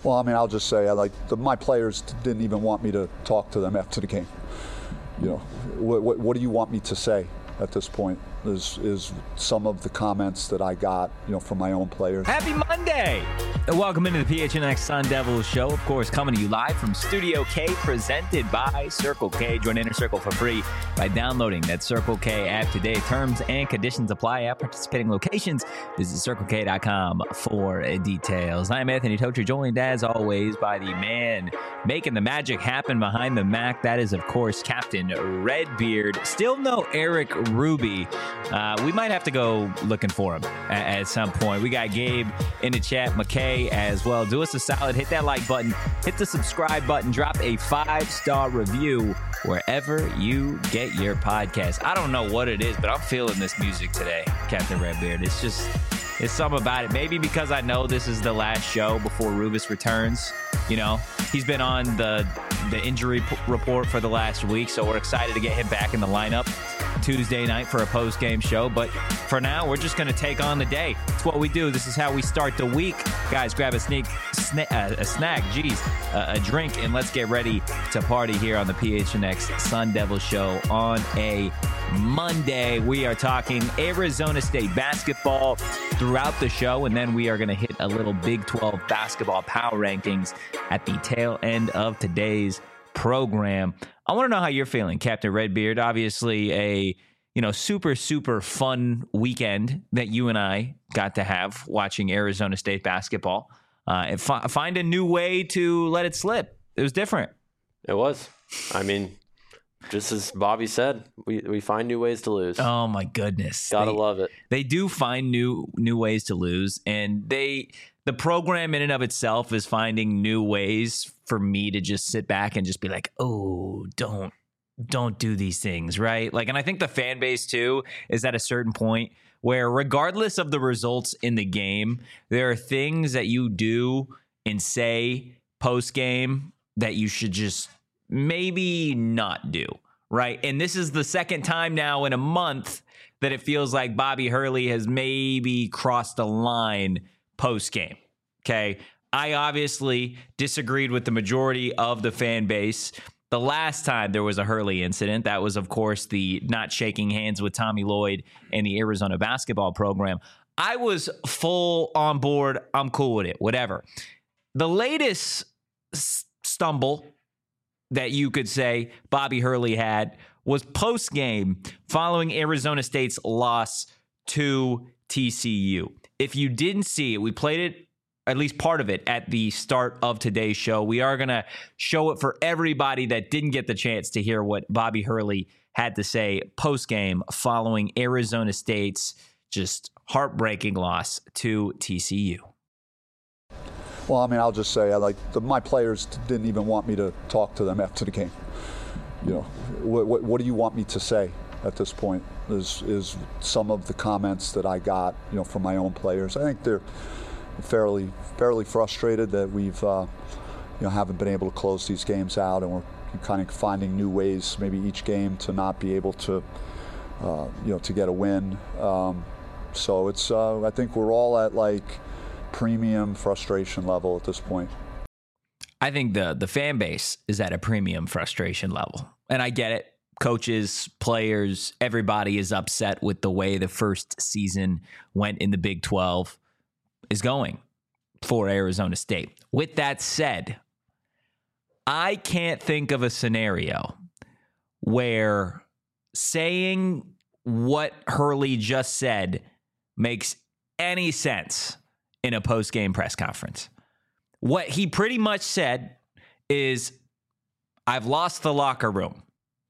Well, I mean, I'll just say, my players didn't even want me to talk to them after the game. You know, what do you want me to say at this point? Is some of the comments that I got, from my own players. Happy Monday! And welcome into the PHNX Sun Devils show. Of course, coming to you live from Studio K, presented by Circle K. Join Inner Circle for free by downloading that Circle K app today. Terms and conditions apply at participating locations. Visit CircleK.com for details. I'm Anthony Tocher, joined as always by the man making the magic happen behind the Mac. That is, of course, Captain Redbeard. Still no Eric Ruby. We might have to go looking for him at some point. We got Gabe in the chat, McKay as well. Do us a solid, hit that like button, hit the subscribe button, drop a 5-star review wherever you get your podcast. I don't know what it is, but I'm feeling this music today, Captain Redbeard. It's something about it. Maybe because I know this is the last show before Rubis returns. He's been on the injury report for the last week, so we're excited to get him back in the lineup Tuesday night for a post-game show. But for now, we're just going to take on the day. It's what we do. This is how we start the week. Guys, grab a snack, a drink, and let's get ready to party here on the PHNX Sun Devil Show on a Monday. We are talking Arizona State basketball throughout the show, and then we are going to hit a little Big 12 basketball power rankings at the tail end of today's program. I want to know how you're feeling, Captain Redbeard. Obviously a super, super fun weekend that you and I got to have watching Arizona State basketball. And find a new way to let it slip. It was different. It was. I mean, just as Bobby said, we find new ways to lose. Oh my goodness. Gotta love it. They do find new ways to lose, and the program in and of itself is finding new ways for me to just sit back and just be like, oh, don't do these things, right? And I think the fan base too is at a certain point where regardless of the results in the game, there are things that you do and say post game that you should just maybe not do, right? And this is the second time now in a month that it feels like Bobby Hurley has maybe crossed the line post-game, okay? I obviously disagreed with the majority of the fan base. The last time there was a Hurley incident, that was, of course, the not shaking hands with Tommy Lloyd and the Arizona basketball program. I was full on board. I'm cool with it, whatever. The latest stumble that you could say Bobby Hurley had was post-game following Arizona State's loss to TCU. If you didn't see it, we played it, at least part of it, at the start of today's show. We are going to show it for everybody that didn't get the chance to hear what Bobby Hurley had to say post-game following Arizona State's just heartbreaking loss to TCU. Well, I mean, I'll just say, my players didn't even want me to talk to them after the game. What do you want me to say at this point? Is some of the comments that I got, from my own players. I think they're fairly frustrated that we've, haven't been able to close these games out, and we're kind of finding new ways, maybe each game, to not be able to, to get a win. So it's, I think we're all at premium frustration level at this point. I think the fan base is at a premium frustration level, and I get it. Coaches, players, everybody is upset with the way the first season went in the Big 12 is going for Arizona State. With that said, I can't think of a scenario where saying what Hurley just said makes any sense in a post-game press conference. What he pretty much said is, I've lost the locker room.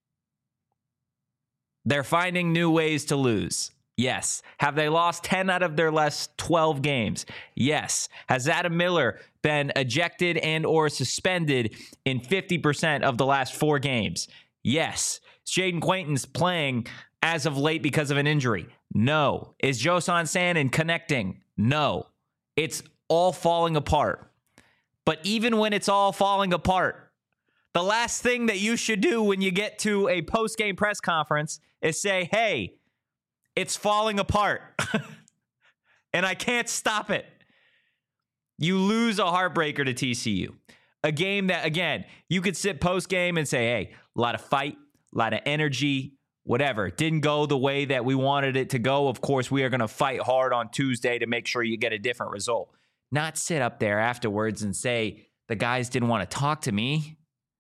They're finding new ways to lose. Yes. Have they lost 10 out of their last 12 games? Yes. Has Adam Miller been ejected and or suspended in 50% of the last 4 games? Yes. Is Jaden Quaintance playing as of late because of an injury? No. Is Josan Sannon connecting? No. It's all falling apart. But even when it's all falling apart, the last thing that you should do when you get to a post-game press conference is say, hey, it's falling apart and I can't stop it. You lose a heartbreaker to TCU. A game that, again, you could sit post-game and say, hey, a lot of fight, a lot of energy, whatever. It didn't go the way that we wanted it to go. Of course, we are going to fight hard on Tuesday to make sure you get a different result. Not sit up there afterwards and say, the guys didn't want to talk to me.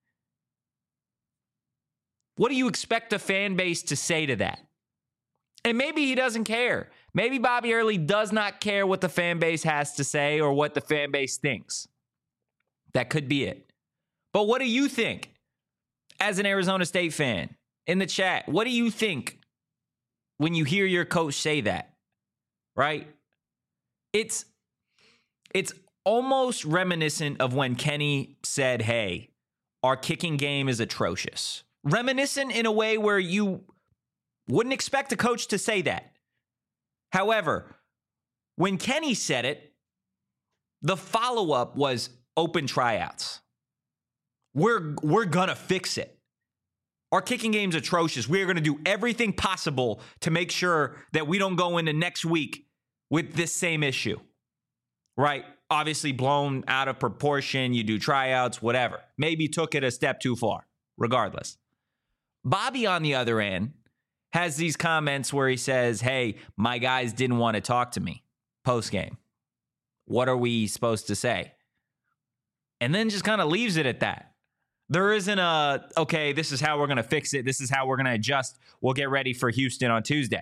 What do you expect the fan base to say to that? And maybe he doesn't care. Maybe Bobby Hurley does not care what the fan base has to say or what the fan base thinks. That could be it. But what do you think as an Arizona State fan in the chat? What do you think when you hear your coach say that? Right? It's almost reminiscent of when Kenny said, hey, our kicking game is atrocious. Reminiscent in a way where you wouldn't expect a coach to say that. However, when Kenny said it, the follow-up was open tryouts. We're going to fix it. Our kicking game's atrocious. We're going to do everything possible to make sure that we don't go into next week with this same issue. Right? Obviously blown out of proportion. You do tryouts, whatever. Maybe took it a step too far, regardless. Bobby, on the other end, has these comments where he says, hey, my guys didn't want to talk to me post-game. What are we supposed to say? And then just kind of leaves it at that. There isn't okay, this is how we're going to fix it. This is how we're going to adjust. We'll get ready for Houston on Tuesday.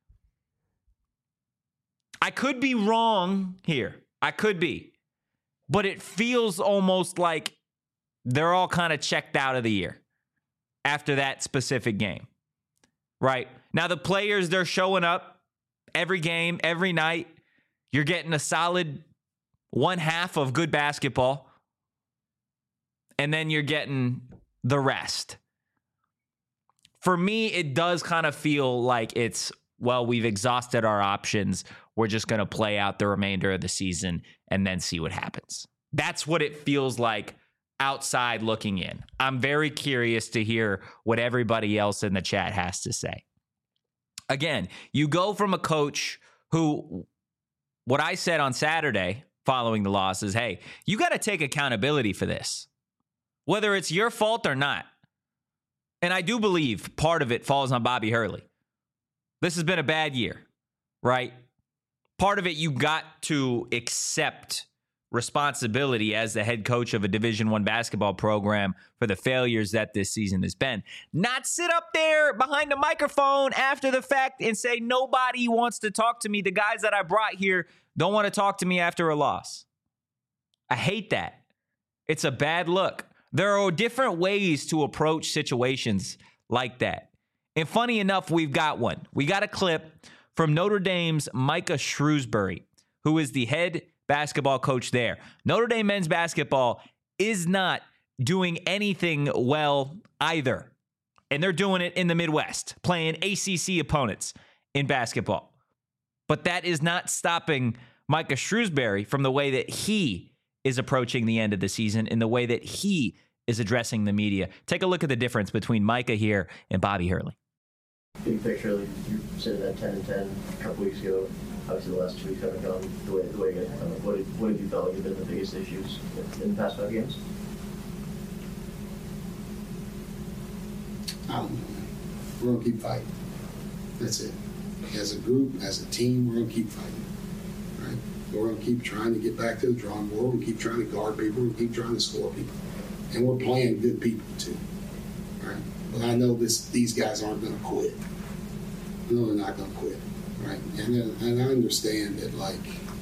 I could be wrong here. I could be. But it feels almost like they're all kind of checked out of the year after that specific game. Right? Now, the players, they're showing up every game, every night. You're getting a solid 1/2 of good basketball. And then you're getting the rest. For me, it does kind of feel like it's, well, we've exhausted our options. We're just going to play out the remainder of the season and then see what happens. That's what it feels like outside looking in. I'm very curious to hear what everybody else in the chat has to say. Again, you go from a coach who, what I said on Saturday following the loss is, hey, you got to take accountability for this, whether it's your fault or not. And I do believe part of it falls on Bobby Hurley. This has been a bad year, right? Part of it, you got to accept responsibility as the head coach of a Division I basketball program for the failures that this season has been. Not sit up there behind the microphone after the fact and say, nobody wants to talk to me. The guys that I brought here don't want to talk to me after a loss. I hate that. It's a bad look. There are different ways to approach situations like that. And funny enough, we've got one. We got a clip from Notre Dame's Micah Shrewsbury, who is the head basketball coach there. Notre Dame men's basketball is not doing anything well either. And they're doing it in the Midwest, playing ACC opponents in basketball. But that is not stopping Micah Shrewsbury from the way that he is approaching the end of the season, in the way that he is addressing the media. Take a look at the difference between Micah here and Bobby Hurley. Big picture, like you said that 10-10 a couple weeks ago. Obviously, the last 2 weeks haven't gone the way it had. What have you felt like have been the biggest issues in the past 5 games? I don't know, man. We're going to keep fighting. That's it. As a group, as a team, we're going to keep fighting. Right? We're going to keep trying to get back to the drawing board. We're going to keep trying to guard people. We're going to keep trying to score people. And we're playing good people, too. Right? But I know these guys aren't going to quit. No, they're not going to quit. Right? And I understand that, like,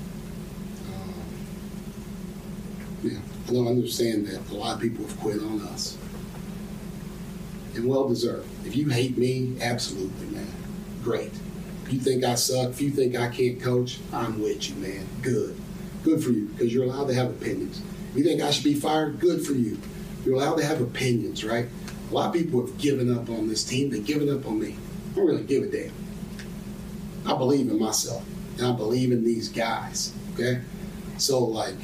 I don't understand that a lot of people have quit on us. And well-deserved. If you hate me, absolutely, man. Great. If you think I suck, if you think I can't coach, I'm with you, man. Good. Good for you, because you're allowed to have opinions. If you think I should be fired, good for you. You're allowed to have opinions, right? A lot of people have given up on this team. They've given up on me. I don't really give a damn. I believe in myself, and I believe in these guys, okay? So, like,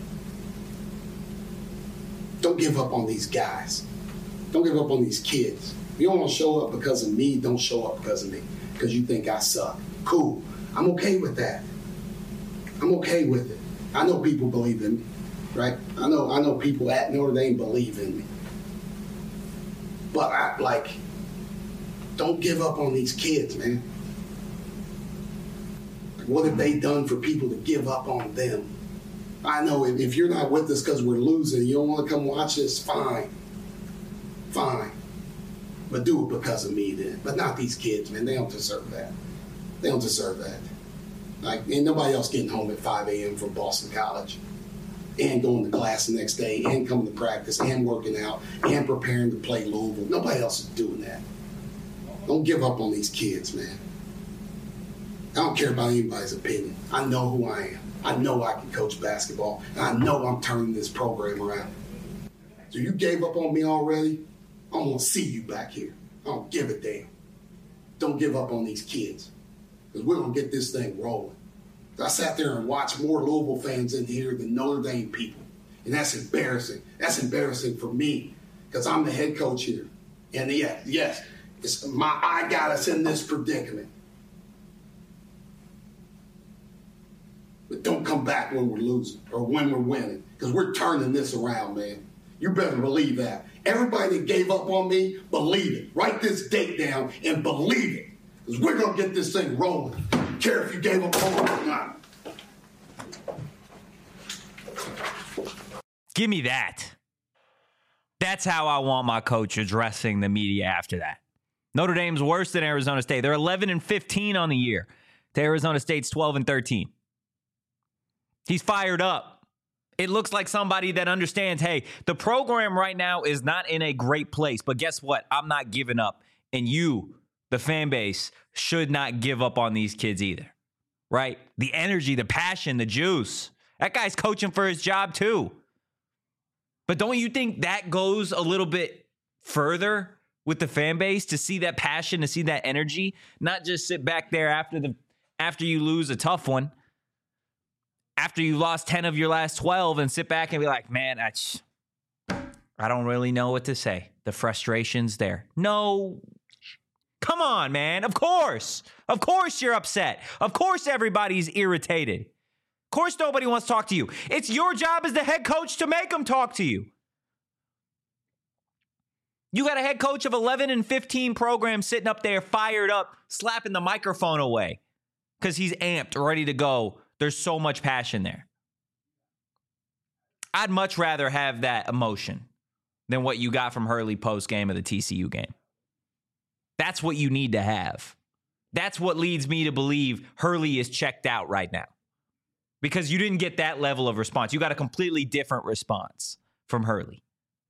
don't give up on these guys. Don't give up on these kids. If you don't want to show up because of me, don't show up because of me, because you think I suck. Cool. I'm okay with that. I'm okay with it. I know people believe in me, right? I know people at Notre Dame believe in me. But don't give up on these kids, man. What have they done for people to give up on them? I know if you're not with us because we're losing, you don't want to come watch this, fine. But do it because of me then. But not these kids, man. They don't deserve that. They don't deserve that. Ain't nobody else getting home at 5 a.m. from Boston College and going to class the next day and coming to practice and working out and preparing to play Louisville. Nobody else is doing that. Don't give up on these kids, man. I don't care about anybody's opinion. I know who I am. I know I can coach basketball, and I know I'm turning this program around. So you gave up on me already? I'm going to see you back here. I don't give a damn. Don't give up on these kids, because we're going to get this thing rolling. I sat there and watched more Louisville fans in here than Notre Dame people, and that's embarrassing. That's embarrassing for me, because I'm the head coach here. And yes, I got us in this predicament. But don't come back when we're losing or when we're winning, because we're turning this around, man. You better believe that. Everybody that gave up on me, believe it. Write this date down and believe it, because we're going to get this thing rolling. I don't care if you gave up on me or not. Give me that. That's how I want my coach addressing the media after that. Notre Dame's worse than Arizona State. They're 11-15 on the year. To Arizona State's 12-13. He's fired up. It looks like somebody that understands, hey, the program right now is not in a great place, but guess what? I'm not giving up. And you, the fan base, should not give up on these kids either, right? The energy, the passion, the juice. That guy's coaching for his job too. But don't you think that goes a little bit further with the fan base, to see that passion, to see that energy, not just sit back there after you lose a tough one, after you lost 10 of your last 12, and sit back and be like, man, I don't really know what to say. The frustration's there. No, come on, man. Of course you're upset. Of course everybody's irritated. Of course nobody wants to talk to you. It's your job as the head coach to make them talk to you. You got a head coach of 11-15 program sitting up there fired up, slapping the microphone away because he's amped, ready to go. There's so much passion there. I'd much rather have that emotion than what you got from Hurley post-game of the TCU game. That's what you need to have. That's what leads me to believe Hurley is checked out right now, because you didn't get that level of response. You got a completely different response from Hurley.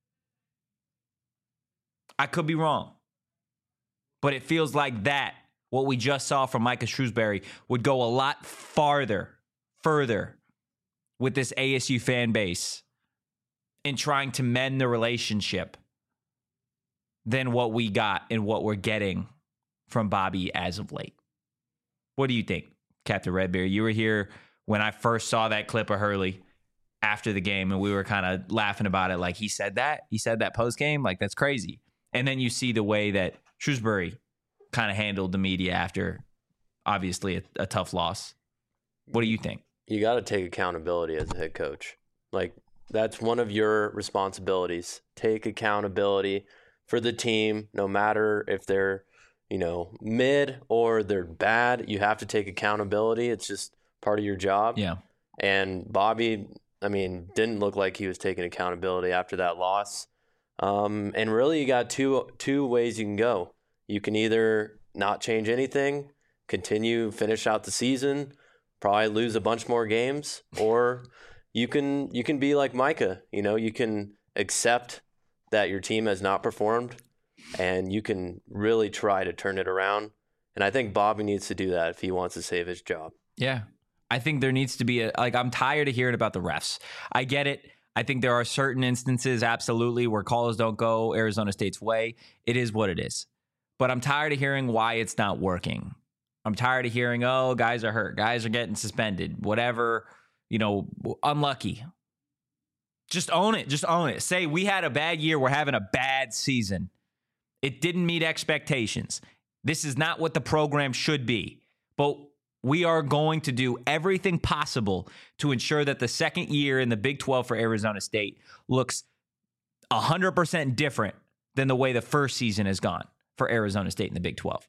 I could be wrong, but it feels like that, what we just saw from Micah Shrewsbury, would go a lot further with this ASU fan base in trying to mend the relationship than what we got and what we're getting from Bobby as of late. What do you think, Captain Redbeard? You were here when I first saw that clip of Hurley after the game, and we were kind of laughing about it. Like, he said that post game. Like, that's crazy. And then you see the way that Shrewsbury kind of handled the media after, obviously, a tough loss. What do you think? You got to take accountability as a head coach. Like, that's one of your responsibilities. Take accountability for the team, no matter if they're, mid or they're bad. You have to take accountability. It's just part of your job. Yeah. And Bobby, didn't look like he was taking accountability after that loss. And really, you got two ways you can go. You can either not change anything, finish out the season, probably lose a bunch more games, or you can be like Micah. You can accept that your team has not performed, and you can really try to turn it around. And I think Bobby needs to do that if he wants to save his job. Yeah. I think there needs to be I'm tired of hearing about the refs. I get it. I think there are certain instances, absolutely, where calls don't go Arizona State's way. It is what it is. But I'm tired of hearing why it's not working. I'm tired of hearing, guys are hurt. Guys are getting suspended. Whatever, unlucky. Just own it. Just own it. Say, we had a bad year. We're having a bad season. It didn't meet expectations. This is not what the program should be. But We are going to do everything possible to ensure that the second year in the Big 12 for Arizona State looks 100% different than the way the first season has gone for Arizona State in the Big 12.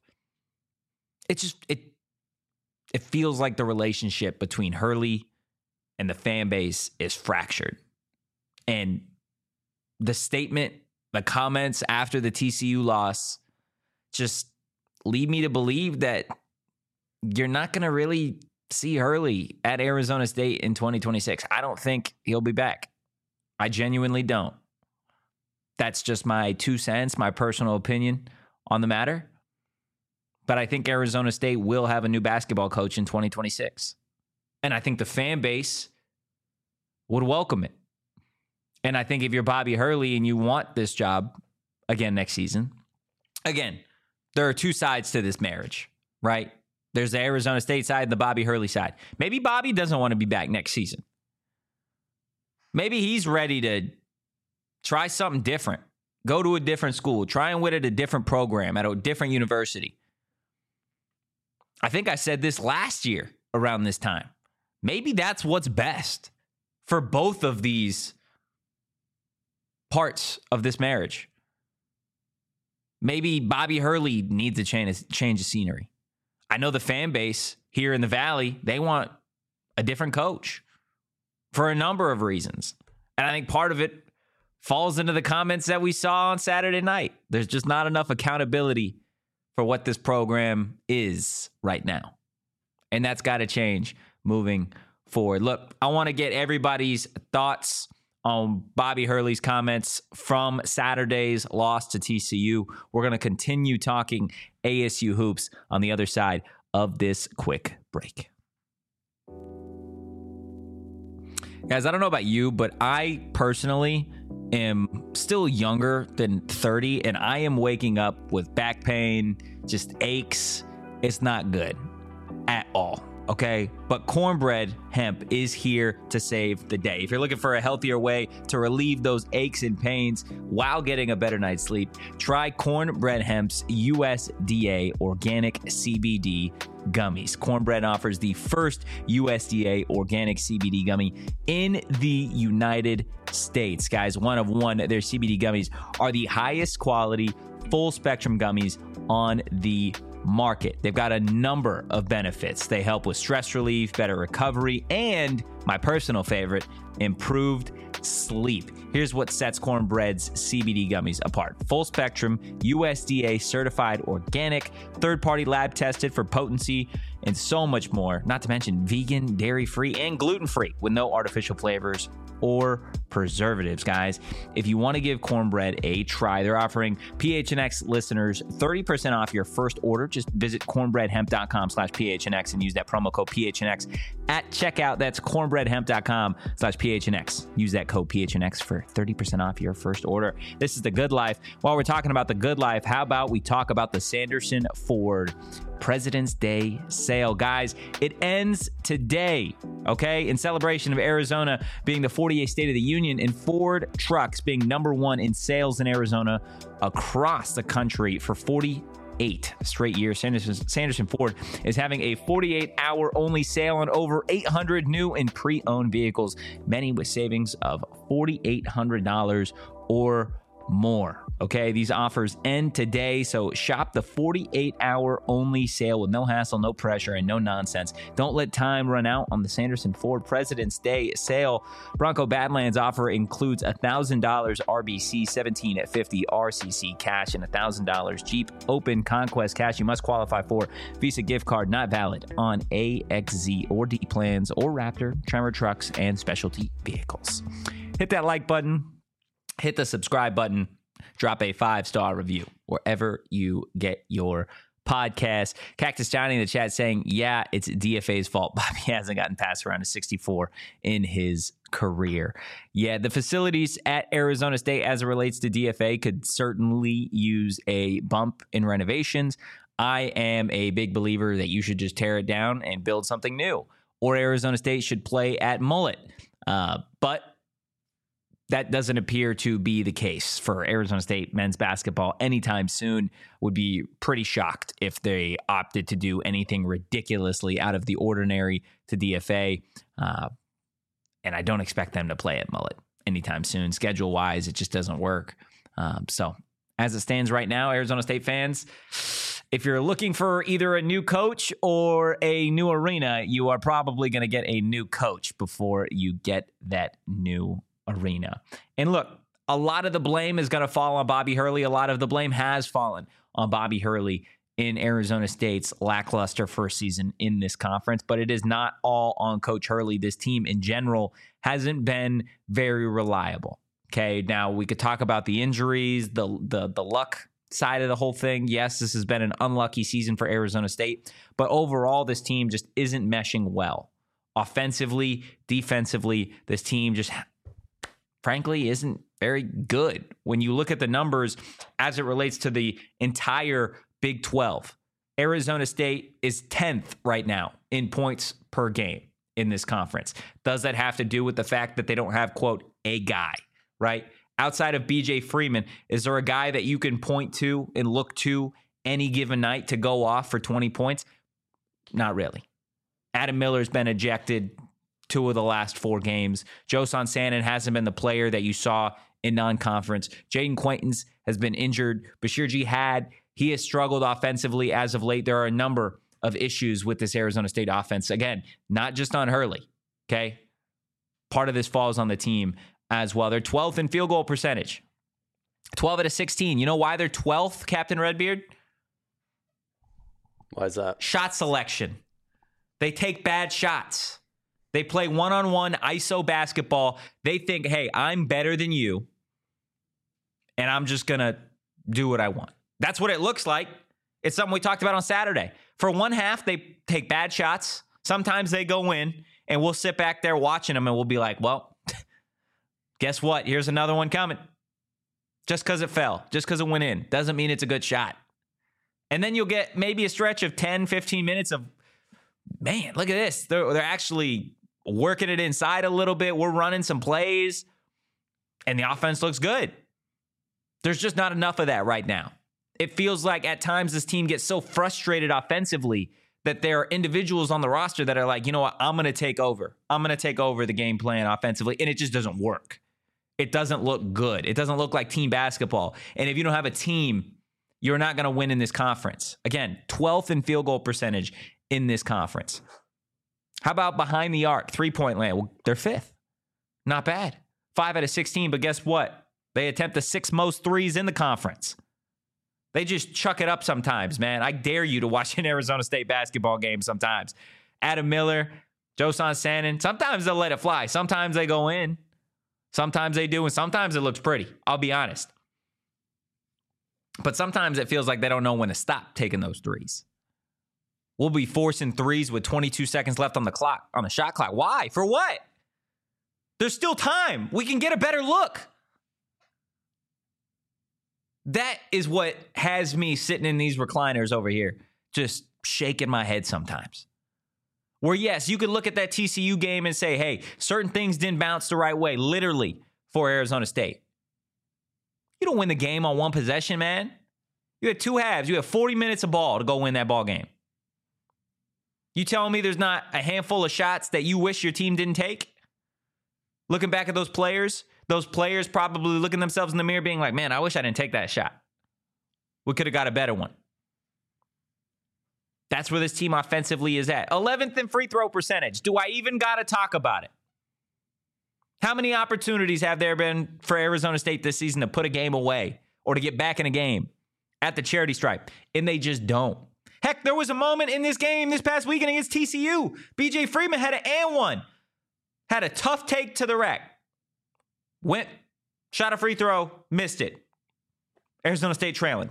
It feels like the relationship between Hurley and the fan base is fractured. And the statement, the comments after the TCU loss just lead me to believe that you're not going to really see Hurley at Arizona State in 2026. I don't think he'll be back. I genuinely don't. That's just my 2 cents, my personal opinion on the matter. But I think Arizona State will have a new basketball coach in 2026. And I think the fan base would welcome it. And I think if you're Bobby Hurley and you want this job again next season, again, there are two sides to this marriage, right? There's the Arizona State side and the Bobby Hurley side. Maybe Bobby doesn't want to be back next season. Maybe he's ready to try something different, go to a different school, try and win at a different program, at a different university. I think I said this last year around this time. Maybe that's what's best for both of these parts of this marriage. Maybe Bobby Hurley needs a change of scenery. I know the fan base here in the Valley, they want a different coach for a number of reasons. And I think part of it falls into the comments that we saw on Saturday night. There's just not enough accountability for what this program is right now. And that's got to change moving forward. Look, I want to get everybody's thoughts on Bobby Hurley's comments from Saturday's loss to TCU. We're going to continue talking ASU hoops on the other side of this quick break. Guys, I don't know about you, but I personally am still younger than 30, and I am waking up with back pain, just aches. It's not good at all. Okay, but Cornbread Hemp is here to save the day. If you're looking for a healthier way to relieve those aches and pains while getting a better night's sleep, try Cornbread Hemp's USDA organic CBD gummies. Cornbread offers the first USDA organic CBD gummy in the United States. Guys, one of one, their CBD gummies are the highest quality, full spectrum gummies on the market. They've got a number of benefits. They help with stress relief, better recovery, and my personal favorite, improved sleep. Here's what sets Cornbread's CBD gummies apart. Full spectrum, USDA certified organic, third-party lab tested for potency, and so much more. Not to mention vegan, dairy-free, and gluten-free with no artificial flavors or preservatives, guys. If you want to give Cornbread a try, they're offering PHNX listeners 30% off your first order. Just visit cornbreadhemp.com/PHNX and use that promo code PHNX at checkout. That's cornbreadhemp.com/PHNX. Use that code PHNX for 30% off your first order. This is The Good Life. While we're talking about The Good Life, how about we talk about the Sanderson Ford President's Day sale? Guys, it ends today, okay? In celebration of Arizona being the 48th state of the union and Ford trucks being number one in sales in Arizona across the country for 48 straight years. Sanderson Ford is having a 48-hour only sale on over 800 new and pre-owned vehicles, many with savings of $4,800 or more. Okay, these offers end today, so shop the 48-hour only sale with no hassle, no pressure, and no nonsense. Don't let time run out on the Sanderson Ford President's Day sale. Bronco Badlands offer includes $1,000 RBC 1750 RCC cash and $1,000 Jeep Open Conquest cash. You must qualify for Visa gift card, not valid on AXZ or D plans or Raptor, Tremor trucks, and specialty vehicles. Hit that like button. Hit the subscribe button, drop a 5-star review wherever you get your podcast. Cactus Johnny in the chat saying, yeah, it's DFA's fault. Bobby hasn't gotten past around a 64 in his career. Yeah, the facilities at Arizona State as it relates to DFA could certainly use a bump in renovations. I am a big believer that you should just tear it down and build something new, or Arizona State should play at Mullet. But that doesn't appear to be the case for Arizona State men's basketball anytime soon. Would be pretty shocked if they opted to do anything ridiculously out of the ordinary to DFA. And I don't expect them to play at Mullet anytime soon. Schedule-wise, it just doesn't work. So as it stands right now, Arizona State fans, if you're looking for either a new coach or a new arena, you are probably going to get a new coach before you get that new arena. And look, a lot of the blame is going to fall on Bobby Hurley. A lot of the blame has fallen on Bobby Hurley in Arizona State's lackluster first season in this conference, but it is not all on Coach Hurley. This team in general hasn't been very reliable. Okay, now we could talk about the injuries, the luck side of the whole thing. Yes, this has been an unlucky season for Arizona State, but overall, this team just isn't meshing well. Offensively, defensively, this team just frankly isn't very good. When you look at the numbers as it relates to the entire Big 12, Arizona State is 10th right now in points per game in this conference. Does that have to do with the fact that they don't have, quote, a guy, right? Outside of BJ Freeman, is there a guy that you can point to and look to any given night to go off for 20 points? Not really. Adam Miller's been ejected 2 of the last 4 games. Josan Sannon hasn't been the player that you saw in non-conference. Jaden Quaintance has been injured. Bashir Jihad, he has struggled offensively as of late. There are a number of issues with this Arizona State offense. Again, not just on Hurley, okay? Part of this falls on the team as well. They're 12th in field goal percentage. 12 out of 16. You know why they're 12th, Captain Redbeard? Why is that? Shot selection. They take bad shots. They play one-on-one ISO basketball. They think, hey, I'm better than you, and I'm just going to do what I want. That's what it looks like. It's something we talked about on Saturday. For one half, they take bad shots. Sometimes they go in, and we'll sit back there watching them, and we'll be like, well, guess what? Here's another one coming. Just because it fell, just because it went in, doesn't mean it's a good shot. And then you'll get maybe a stretch of 10, 15 minutes of, man, look at this. They're actually working it inside a little bit. We're running some plays, and the offense looks good. There's just not enough of that right now. It feels like at times this team gets so frustrated offensively that there are individuals on the roster that are like, you know what, I'm going to take over. I'm going to take over the game plan offensively, and it just doesn't work. It doesn't look good. It doesn't look like team basketball. And if you don't have a team, you're not going to win in this conference. Again, 12th in field goal percentage in this conference. How about behind the arc, 3-point land? Well, they're 5th. Not bad. 5 out of 16, but guess what? They attempt the 6th most threes in the conference. They just chuck it up sometimes, man. I dare you to watch an Arizona State basketball game sometimes. Adam Miller, Josan Sannon, sometimes they'll let it fly. Sometimes they go in. Sometimes they do, and sometimes it looks pretty. I'll be honest. But sometimes it feels like they don't know when to stop taking those threes. We'll be forcing threes with 22 seconds left on the clock, on the shot clock. Why? For what? There's still time. We can get a better look. That is what has me sitting in these recliners over here, just shaking my head sometimes. Where, yes, you could look at that TCU game and say, hey, certain things didn't bounce the right way, literally, for Arizona State. You don't win the game on one possession, man. You had 2 halves. You had 40 minutes of ball to go win that ball game. You telling me there's not a handful of shots that you wish your team didn't take? Looking back at those players probably looking themselves in the mirror being like, man, I wish I didn't take that shot. We could have got a better one. That's where this team offensively is at. 11th in free throw percentage. Do I even got to talk about it? How many opportunities have there been for Arizona State this season to put a game away or to get back in a game at the charity stripe? And they just don't. Heck, there was a moment in this game this past weekend against TCU. BJ Freeman had an and one. Had a tough take to the rack. Went, shot a free throw, missed it. Arizona State trailing.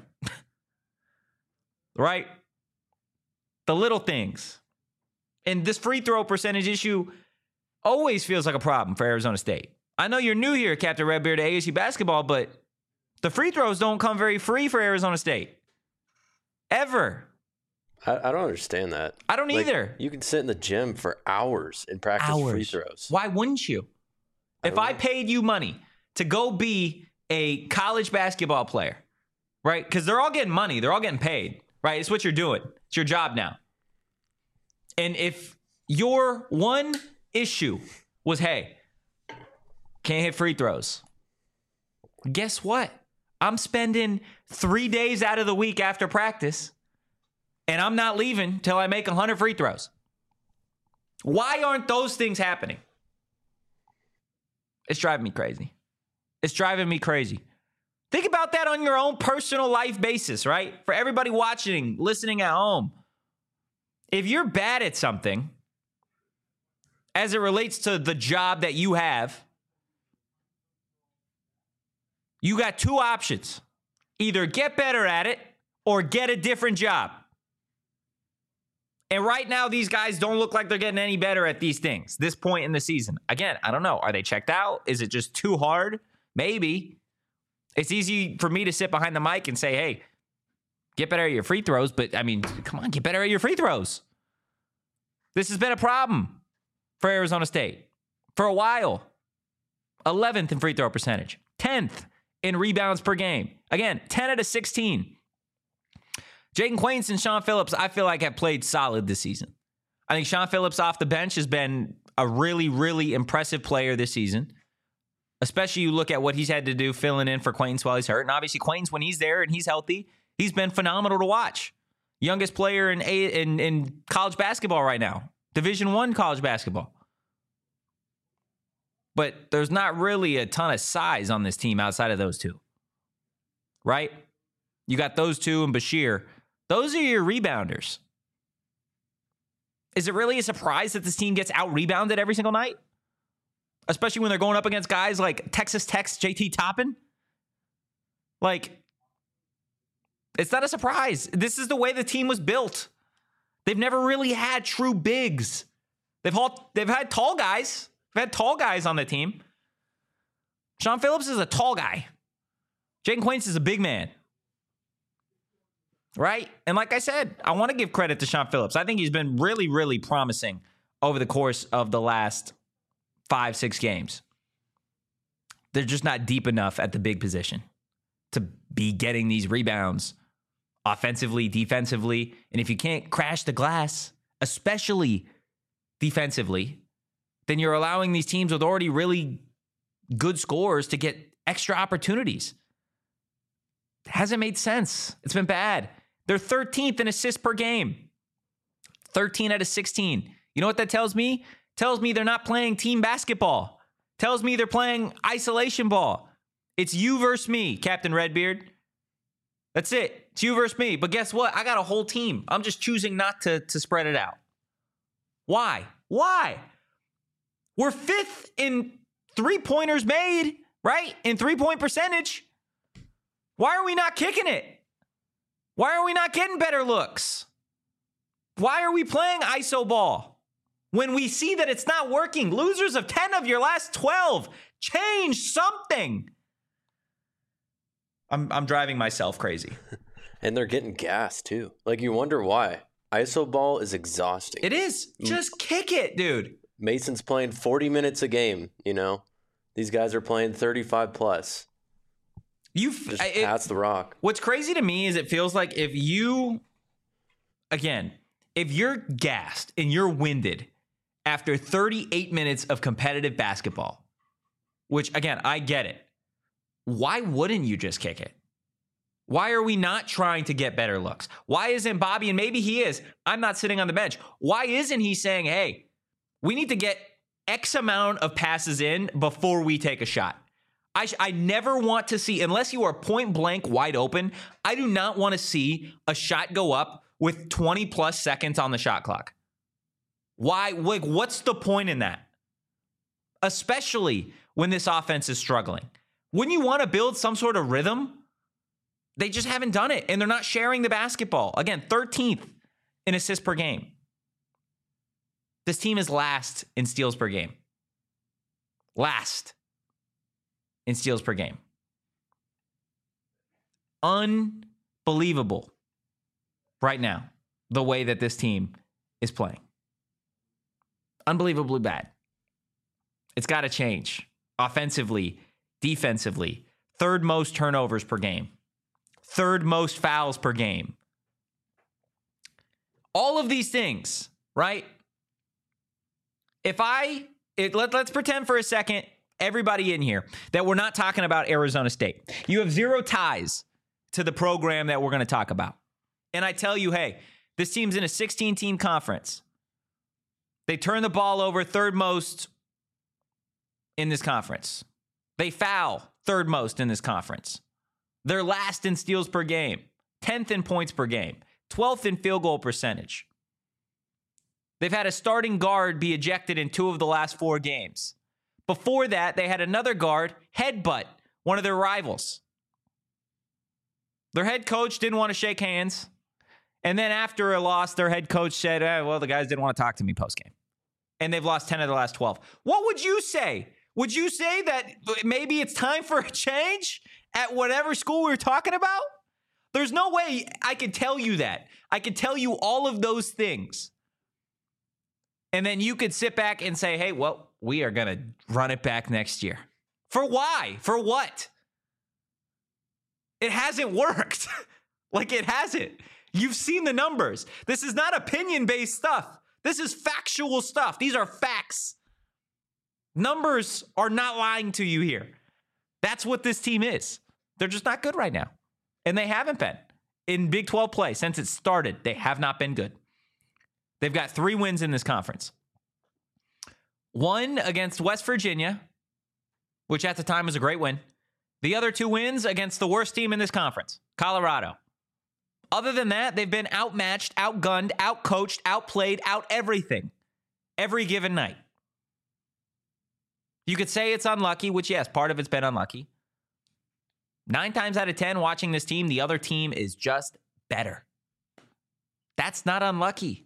Right? The little things. And this free throw percentage issue always feels like a problem for Arizona State. I know you're new here, Captain Redbeard, to ASU basketball, but the free throws don't come very free for Arizona State. Ever. I don't understand that. I don't either. You can sit in the gym for hours and practice free throws. Why wouldn't you? If I paid you money to go be a college basketball player, right? Because they're all getting money. They're all getting paid, right? It's what you're doing. It's your job now. And if your one issue was, hey, can't hit free throws, guess what? I'm spending 3 days out of the week after practice, and I'm not leaving till I make 100 free throws. Why aren't those things happening? It's driving me crazy. It's driving me crazy. Think about that on your own personal life basis, right? For everybody watching, listening at home. If you're bad at something, as it relates to the job that you have, you got two options. Either get better at it or get a different job. And right now, these guys don't look like they're getting any better at these things, this point in the season. Again, I don't know. Are they checked out? Is it just too hard? Maybe. It's easy for me to sit behind the mic and say, hey, get better at your free throws. But, I mean, come on, get better at your free throws. This has been a problem for Arizona State for a while. 11th in free throw percentage. 10th in rebounds per game. Again, 10 out of 16. Jaden Quains and Sean Phillips, I feel like, have played solid this season. I think Sean Phillips off the bench has been a really, really impressive player this season. Especially you look at what he's had to do filling in for Quains while he's hurt. And obviously Quains, when he's there and he's healthy, he's been phenomenal to watch. Youngest player in college basketball right now. Division I college basketball. But there's not really a ton of size on this team outside of those two. Right? You got those two and Bashir. Those are your rebounders. Is it really a surprise that this team gets out-rebounded every single night? Especially when they're going up against guys like Texas Tech's JT Toppin? Like, it's not a surprise. This is the way the team was built. They've never really had true bigs. They've had tall guys. They've had tall guys on the team. Sean Phillips is a tall guy. Jaden Quains is a big man. Right? And like I said, I want to give credit to Sean Phillips. I think he's been really, really promising over the course of the last 5-6 games. They're just not deep enough at the big position to be getting these rebounds offensively, defensively. And if you can't crash the glass, especially defensively, then you're allowing these teams with already really good scores to get extra opportunities. It hasn't made sense. It's been bad. They're 13th in assists per game. 13 out of 16. You know what that tells me? Tells me they're not playing team basketball. Tells me they're playing isolation ball. It's you versus me, Captain Redbeard. That's it. It's you versus me. But guess what? I got a whole team. I'm just choosing not to spread it out. Why? Why? We're 5th in three-pointers made, right? In three-point percentage. Why are we not kicking it? Why are we not getting better looks? Why are we playing iso ball when we see that it's not working? Losers of 10 of your last 12. Change something. I'm driving myself crazy. And they're getting gassed too. Like, you wonder why. Iso ball is exhausting. It is. Just kick it, dude. Mason's playing 40 minutes a game, you know? These guys are playing 35 plus. Just pass the rock. What's crazy to me is it feels like if you're gassed and you're winded after 38 minutes of competitive basketball, which, again, I get it. Why wouldn't you just kick it? Why are we not trying to get better looks? Why isn't Bobby, and maybe he is, I'm not sitting on the bench. Why isn't he saying, hey, we need to get X amount of passes in before we take a shot? I never want to see, unless you are point blank wide open, I do not want to see a shot go up with 20 plus seconds on the shot clock. Why? Like, what's the point in that? Especially when this offense is struggling. Wouldn't you want to build some sort of rhythm? They just haven't done it, and they're not sharing the basketball. Again, 13th in assists per game. This team is last in steals per game. Last in steals per game. Unbelievable right now, the way that this team is playing. Unbelievably bad. It's got to change offensively, defensively, third most turnovers per game, third most fouls per game. All of these things, right? Let's pretend for a second, everybody in here, that we're not talking about Arizona State. You have zero ties to the program that we're going to talk about. And I tell you, hey, this team's in a 16-team conference. They turn the ball over third most in this conference. They foul third most in this conference. They're last in steals per game, 10th in points per game, 12th in field goal percentage. They've had a starting guard be ejected in 2 of the last 4 games. Before that, they had another guard headbutt one of their rivals. Their head coach didn't want to shake hands. And then after a loss, their head coach said, well, the guys didn't want to talk to me postgame. And they've lost 10 of the last 12. What would you say? Would you say that maybe it's time for a change at whatever school we're talking about? There's no way I could tell you that. I could tell you all of those things. And then you could sit back and say, hey, well, we are going to run it back next year. For why? For what? It hasn't worked. Like, it hasn't. You've seen the numbers. This is not opinion-based stuff. This is factual stuff. These are facts. Numbers are not lying to you here. That's what this team is. They're just not good right now. And they haven't been. In Big 12 play, since it started, they have not been good. They've got 3 wins in this conference. 1 against West Virginia, which at the time was a great win. The other 2 wins against the worst team in this conference, Colorado. Other than that, they've been outmatched, outgunned, outcoached, outplayed, out everything every given night. You could say it's unlucky, which, yes, part of it's been unlucky. 9 times out of 10, watching this team, the other team is just better. That's not unlucky.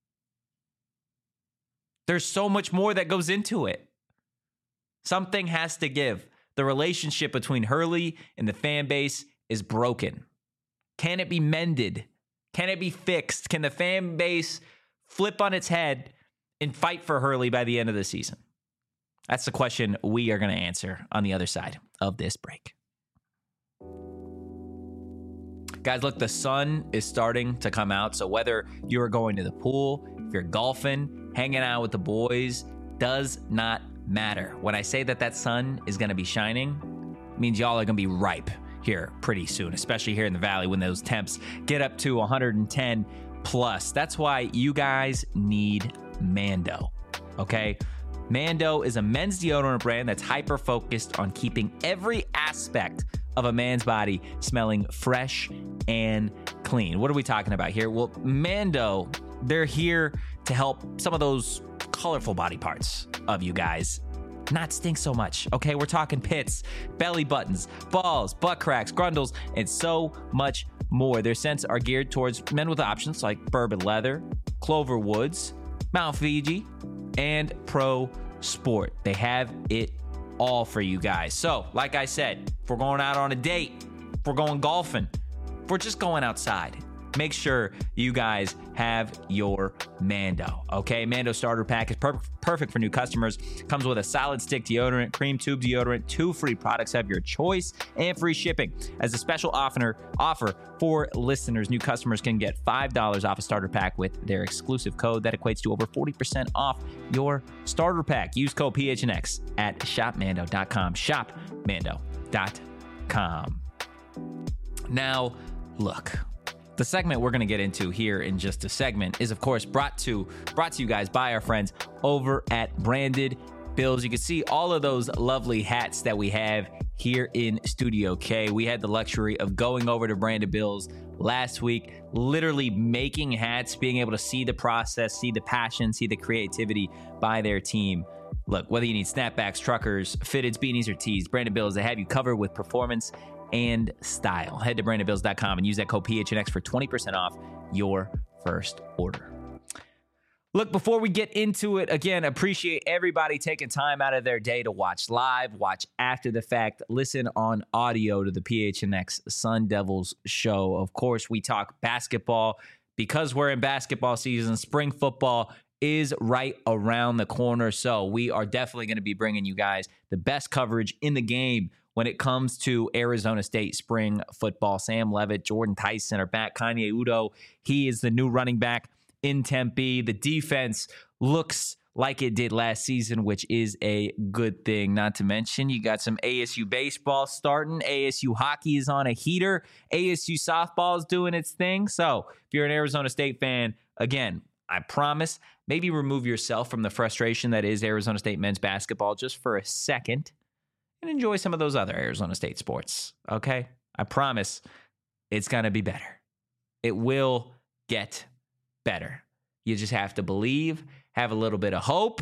There's so much more that goes into it. Something has to give. The relationship between Hurley and the fan base is broken. Can it be mended? Can it be fixed? Can the fan base flip on its head and fight for Hurley by the end of the season? That's the question we are going to answer on the other side of this break. Guys, look, the sun is starting to come out. So whether you're going to the pool, if you're golfing, hanging out with the boys, does not matter. When I say that sun is going to be shining, it means y'all are going to be ripe here pretty soon, especially here in the Valley when those temps get up to 110 plus. That's why you guys need Mando, okay? Mando is a men's deodorant brand that's hyper-focused on keeping every aspect of a man's body smelling fresh and clean. What are we talking about here? Well, Mando, they're here to help some of those colorful body parts of you guys not stink so much, okay? We're talking pits, belly buttons, balls, butt cracks, grundles, and so much more. Their scents are geared towards men with options like bourbon leather, clover woods, Mount Fiji, and Pro Sport. They have it all for you guys. So, like I said, if we're going out on a date, if we're going golfing, if we're just going outside, make sure you guys have your Mando, okay? Mando Starter Pack is perfect for new customers. Comes with a solid stick deodorant, cream tube deodorant, 2 free products of your choice, and free shipping. As a special offer for listeners, new customers can get $5 off a starter pack with their exclusive code. That equates to over 40% off your starter pack. Use code PHNX at shopmando.com. Shopmando.com. Now, look. The segment we're going to get into here in just a segment is, of course, brought to you guys by our friends over at Branded Bills. You can see all of those lovely hats that we have here in Studio K. We had the luxury of going over to Branded Bills last week, literally making hats, being able to see the process, see the passion, see the creativity by their team. Look, whether you need snapbacks, truckers, fitteds, beanies, or tees, Branded Bills, they have you covered with performance and style. Head to brandedbills.com and use that code PHNX for 20% off your first order. Look, before we get into it, again, appreciate everybody taking time out of their day to watch live, watch after the fact, listen on audio to the PHNX Sun Devils show. Of course, we talk basketball because we're in basketball season, spring football is right around the corner. So we are definitely going to be bringing you guys the best coverage in the game when it comes to Arizona State spring football. Sam Levitt, Jordan Tyson are back. Kanye Udo, he is the new running back in Tempe. The defense looks like it did last season, which is a good thing. Not to mention, you got some ASU baseball starting. ASU hockey is on a heater. ASU softball is doing its thing. So if you're an Arizona State fan, again, I promise, maybe remove yourself from the frustration that is Arizona State men's basketball just for a second and enjoy some of those other Arizona State sports, okay? I promise it's going to be better. It will get better. You just have to believe, have a little bit of hope,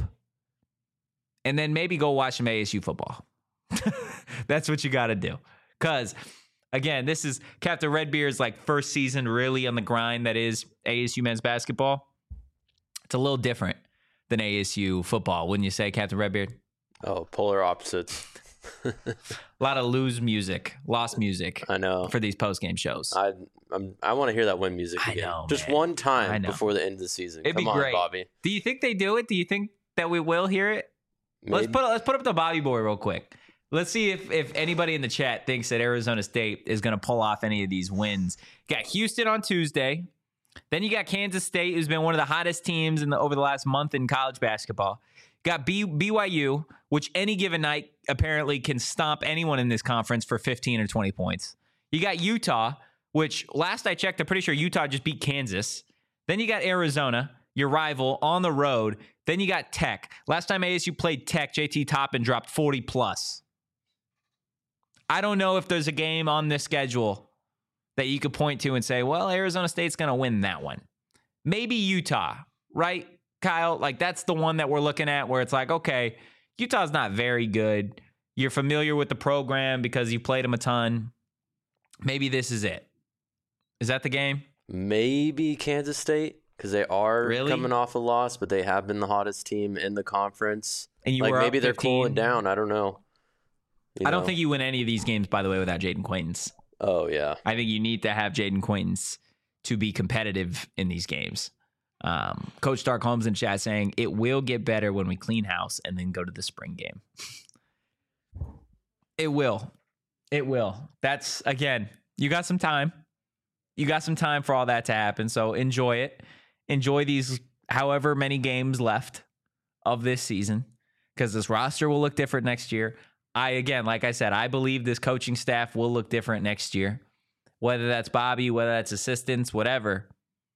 and then maybe go watch some ASU football. That's what you got to do. Because, again, this is Captain Redbeard's first season really on the grind that is ASU men's basketball. It's a little different than ASU football, wouldn't you say, Captain Redbeard? Oh, polar opposites. A lot of lost music I know. for these post-game shows. I want to hear that win music again. I know, just man. one time before the end of the season. It'd Come be on, great. Bobby. Do you think they do it? Do you think that we will hear it? Maybe. Let's put up the Bobby boy real quick. Let's see if anybody in the chat thinks that Arizona State is going to pull off any of these wins. You got Houston on Tuesday. Then you got Kansas State, who's been one of the hottest teams over the last month in college basketball. Got BYU, which any given night apparently can stomp anyone in this conference for 15 or 20 points. You got Utah, which last I checked, I'm pretty sure Utah just beat Kansas. Then you got Arizona, your rival, on the road. Then you got Tech. Last time ASU played Tech, JT Toppin dropped 40+. I don't know if there's a game on this schedule that you could point to and say, well, Arizona State's going to win that one. Maybe Utah, right, Kyle? That's the one that we're looking at where it's okay, Utah's not very good. You're familiar with the program because you played them a ton. Maybe this is it. Is that the game? Maybe Kansas State, because they are coming off a loss, but they have been the hottest team in the conference. And you were maybe up they're 15. cooling down. I don't know. I don't think you win any of these games, by the way, without Jaden Quaintance. Oh, yeah. I think you need to have Jaden Quaintance to be competitive in these games. Coach Stark Holmes in chat saying, it will get better when we clean house and then go to the spring game. It will. It will. That's, again, you got some time. You got some time for all that to happen, so enjoy it. Enjoy these however many games left of this season, because this roster will look different next year. Like I said, I believe this coaching staff will look different next year. Whether that's Bobby, whether that's assistants, whatever.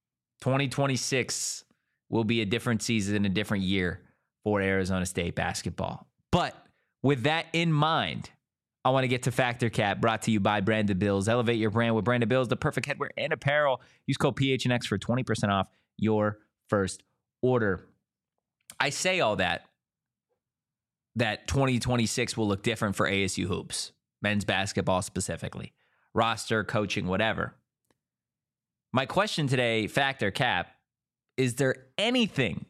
2026 will be a different season, a different year for Arizona State basketball. But with that in mind, I want to get to Factor Cap, brought to you by Branded Bills. Elevate your brand with Branded Bills, the perfect headwear and apparel. Use code PHNX for 20% off your first order. I say all that 2026 will look different for ASU hoops, men's basketball specifically, roster, coaching, whatever. My question today, Factor Cap, is there anything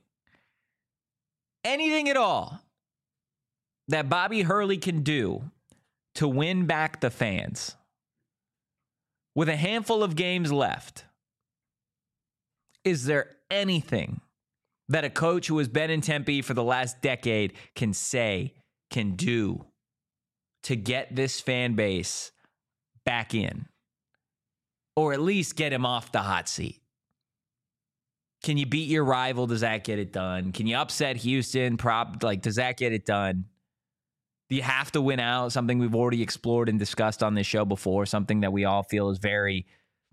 at all that Bobby Hurley can do to win back the fans? With a handful of games left, is there anything that a coach who has been in Tempe for the last decade can say, can do to get this fan base back in? Or at least get him off the hot seat? Can you beat your rival? Does that get it done? Can you upset Houston? Does that get it done? Do you have to win out? Something we've already explored and discussed on this show before. Something that we all feel is very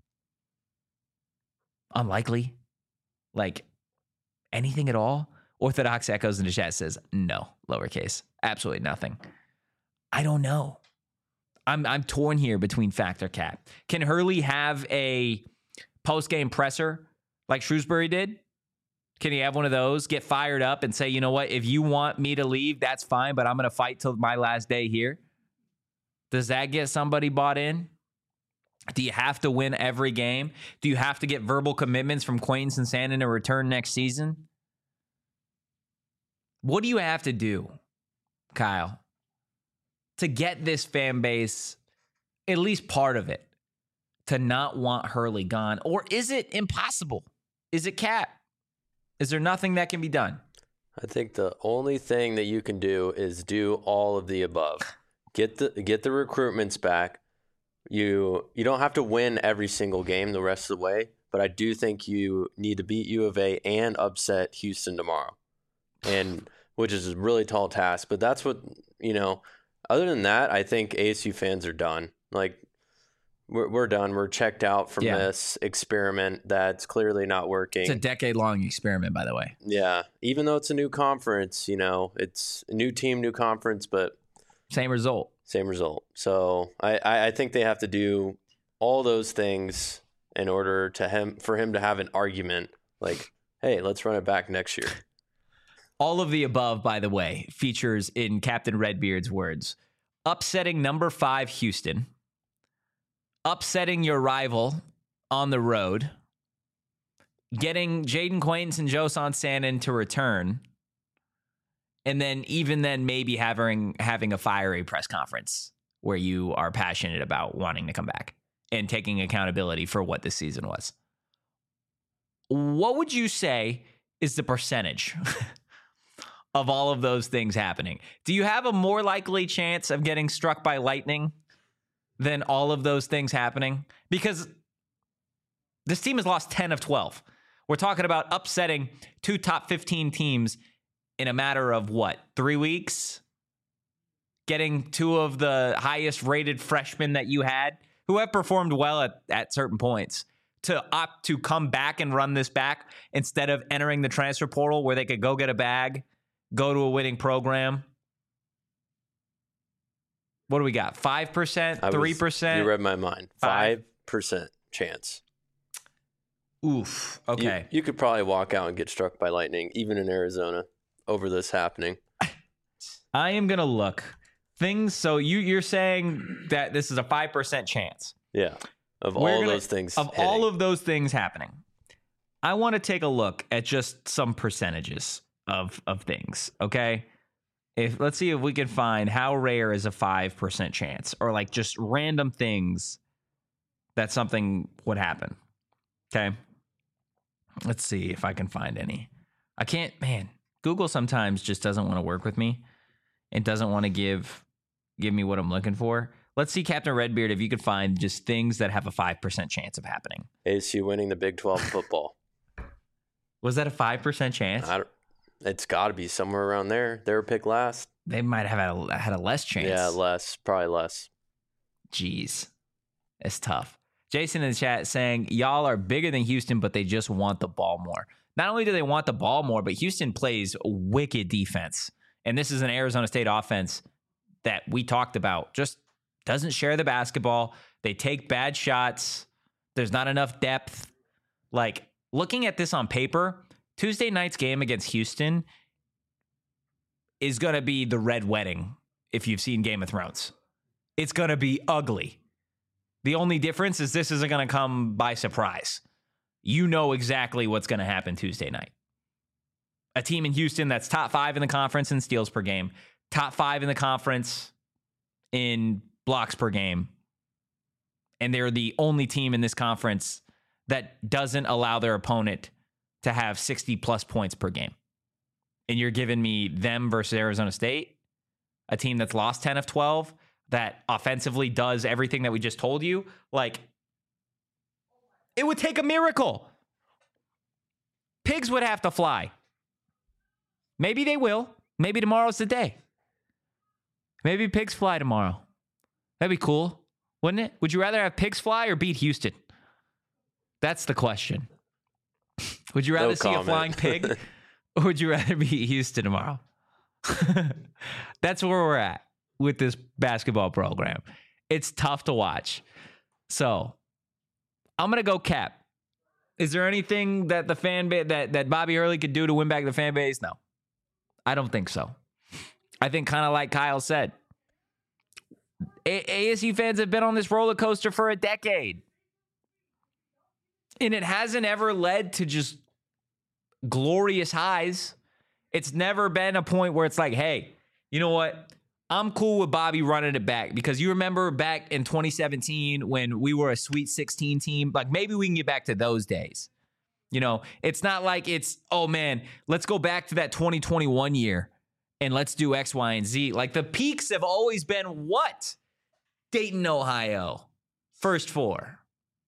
unlikely. Anything at all? Orthodox Echoes in the chat says no, lowercase. Absolutely nothing. I don't know. I'm torn here between Factor Cap. Can Hurley have a post-game presser like Shrewsbury did? Can he have one of those, get fired up and say, you know what, if you want me to leave, that's fine, but I'm going to fight till my last day here? Does that get somebody bought in? Do you have to win every game? Do you have to get verbal commitments from Quaintance and Sandin to return next season? What do you have to do, Kyle, to get this fan base, at least part of it, to not want Hurley gone? Or is it impossible? Is it Cap? Is there nothing that can be done? I think the only thing that you can do is do all of the above. Get the recruitments back. You don't have to win every single game the rest of the way, but I do think you need to beat U of A and upset Houston tomorrow, and which is a really tall task. But that's what, other than that, I think ASU fans are done. Like, we're done. We're checked out from this experiment that's clearly not working. It's a decade-long experiment, by the way. Yeah. Even though it's a new conference, it's a new team, new conference, but same result. So I think they have to do all those things in order for him to have an argument like, hey, let's run it back next year. All of the above, by the way, features in Captain Redbeard's words: upsetting number 5 Houston, upsetting your rival on the road, getting Jaden Quaintance and Joe Sansanin to return, and then maybe having a fiery press conference where you are passionate about wanting to come back and taking accountability for what this season was. What would you say is the percentage of all of those things happening? Do you have a more likely chance of getting struck by lightning than all of those things happening? Because this team has lost 10 of 12. We're talking about upsetting 2 top 15 teams in a matter of 3 weeks? Getting 2 of the highest rated freshmen that you had, who have performed well at certain points, to opt to come back and run this back instead of entering the transfer portal where they could go get a bag, go to a winning program. What do we got? 5%? 3%? You read my mind. 5% chance. Oof. Okay. You could probably walk out and get struck by lightning, even in Arizona, over this happening. I am going to look. So you're saying that this is a 5% chance. Yeah. Of all those things. Of all of those things happening. I want to take a look at just some percentages of things, okay? Let's see if we can find how rare is a 5% chance, or like just random things that something would happen. Okay? Let's see if I can find any. I can't, man. Google sometimes just doesn't want to work with me. It doesn't want to give me what I'm looking for. Let's see, Captain Redbeard, if you could find just things that have a 5% chance of happening. ASU winning the Big 12 football. Was that a 5% chance? It's got to be somewhere around there. They were picked last. They might have had a less chance. Yeah, probably less. Jeez, it's tough. Jason in the chat saying, y'all are bigger than Houston, but they just want the ball more. Not only do they want the ball more, but Houston plays wicked defense. And this is an Arizona State offense that we talked about. Just doesn't share the basketball. They take bad shots. There's not enough depth. Like, looking at this on paper, Tuesday night's game against Houston is going to be the red wedding if you've seen Game of Thrones. It's going to be ugly. The only difference is this isn't going to come by surprise. You know exactly what's going to happen Tuesday night. A team in Houston that's top 5 in the conference in steals per game, top 5 in the conference in blocks per game, and they're the only team in this conference that doesn't allow their opponent to have 60-plus points per game. And you're giving me them versus Arizona State, a team that's lost 10 of 12, that offensively does everything that we just told you. Like, it would take a miracle. Pigs would have to fly. Maybe they will. Maybe tomorrow's the day. Maybe pigs fly tomorrow. That'd be cool, wouldn't it? Would you rather have pigs fly or beat Houston? That's the question. Would you rather see a flying pig, or would you rather beat Houston tomorrow? That's where we're at with this basketball program. It's tough to watch. So I'm going to go Cap. Is there anything that the fan base that Bobby Hurley could do to win back the fan base? No, I don't think so. I think, kind of like Kyle said, ASU fans have been on this roller coaster for a decade. And it hasn't ever led to just glorious highs. It's never been a point where it's like, hey, you know what? I'm cool with Bobby running it back, because you remember back in 2017 when we were a Sweet 16 team, like maybe we can get back to those days. You know, it's not like it's, oh man, let's go back to that 2021 year and let's do X, Y, and Z. Like the peaks have always been what? Dayton, Ohio, first four.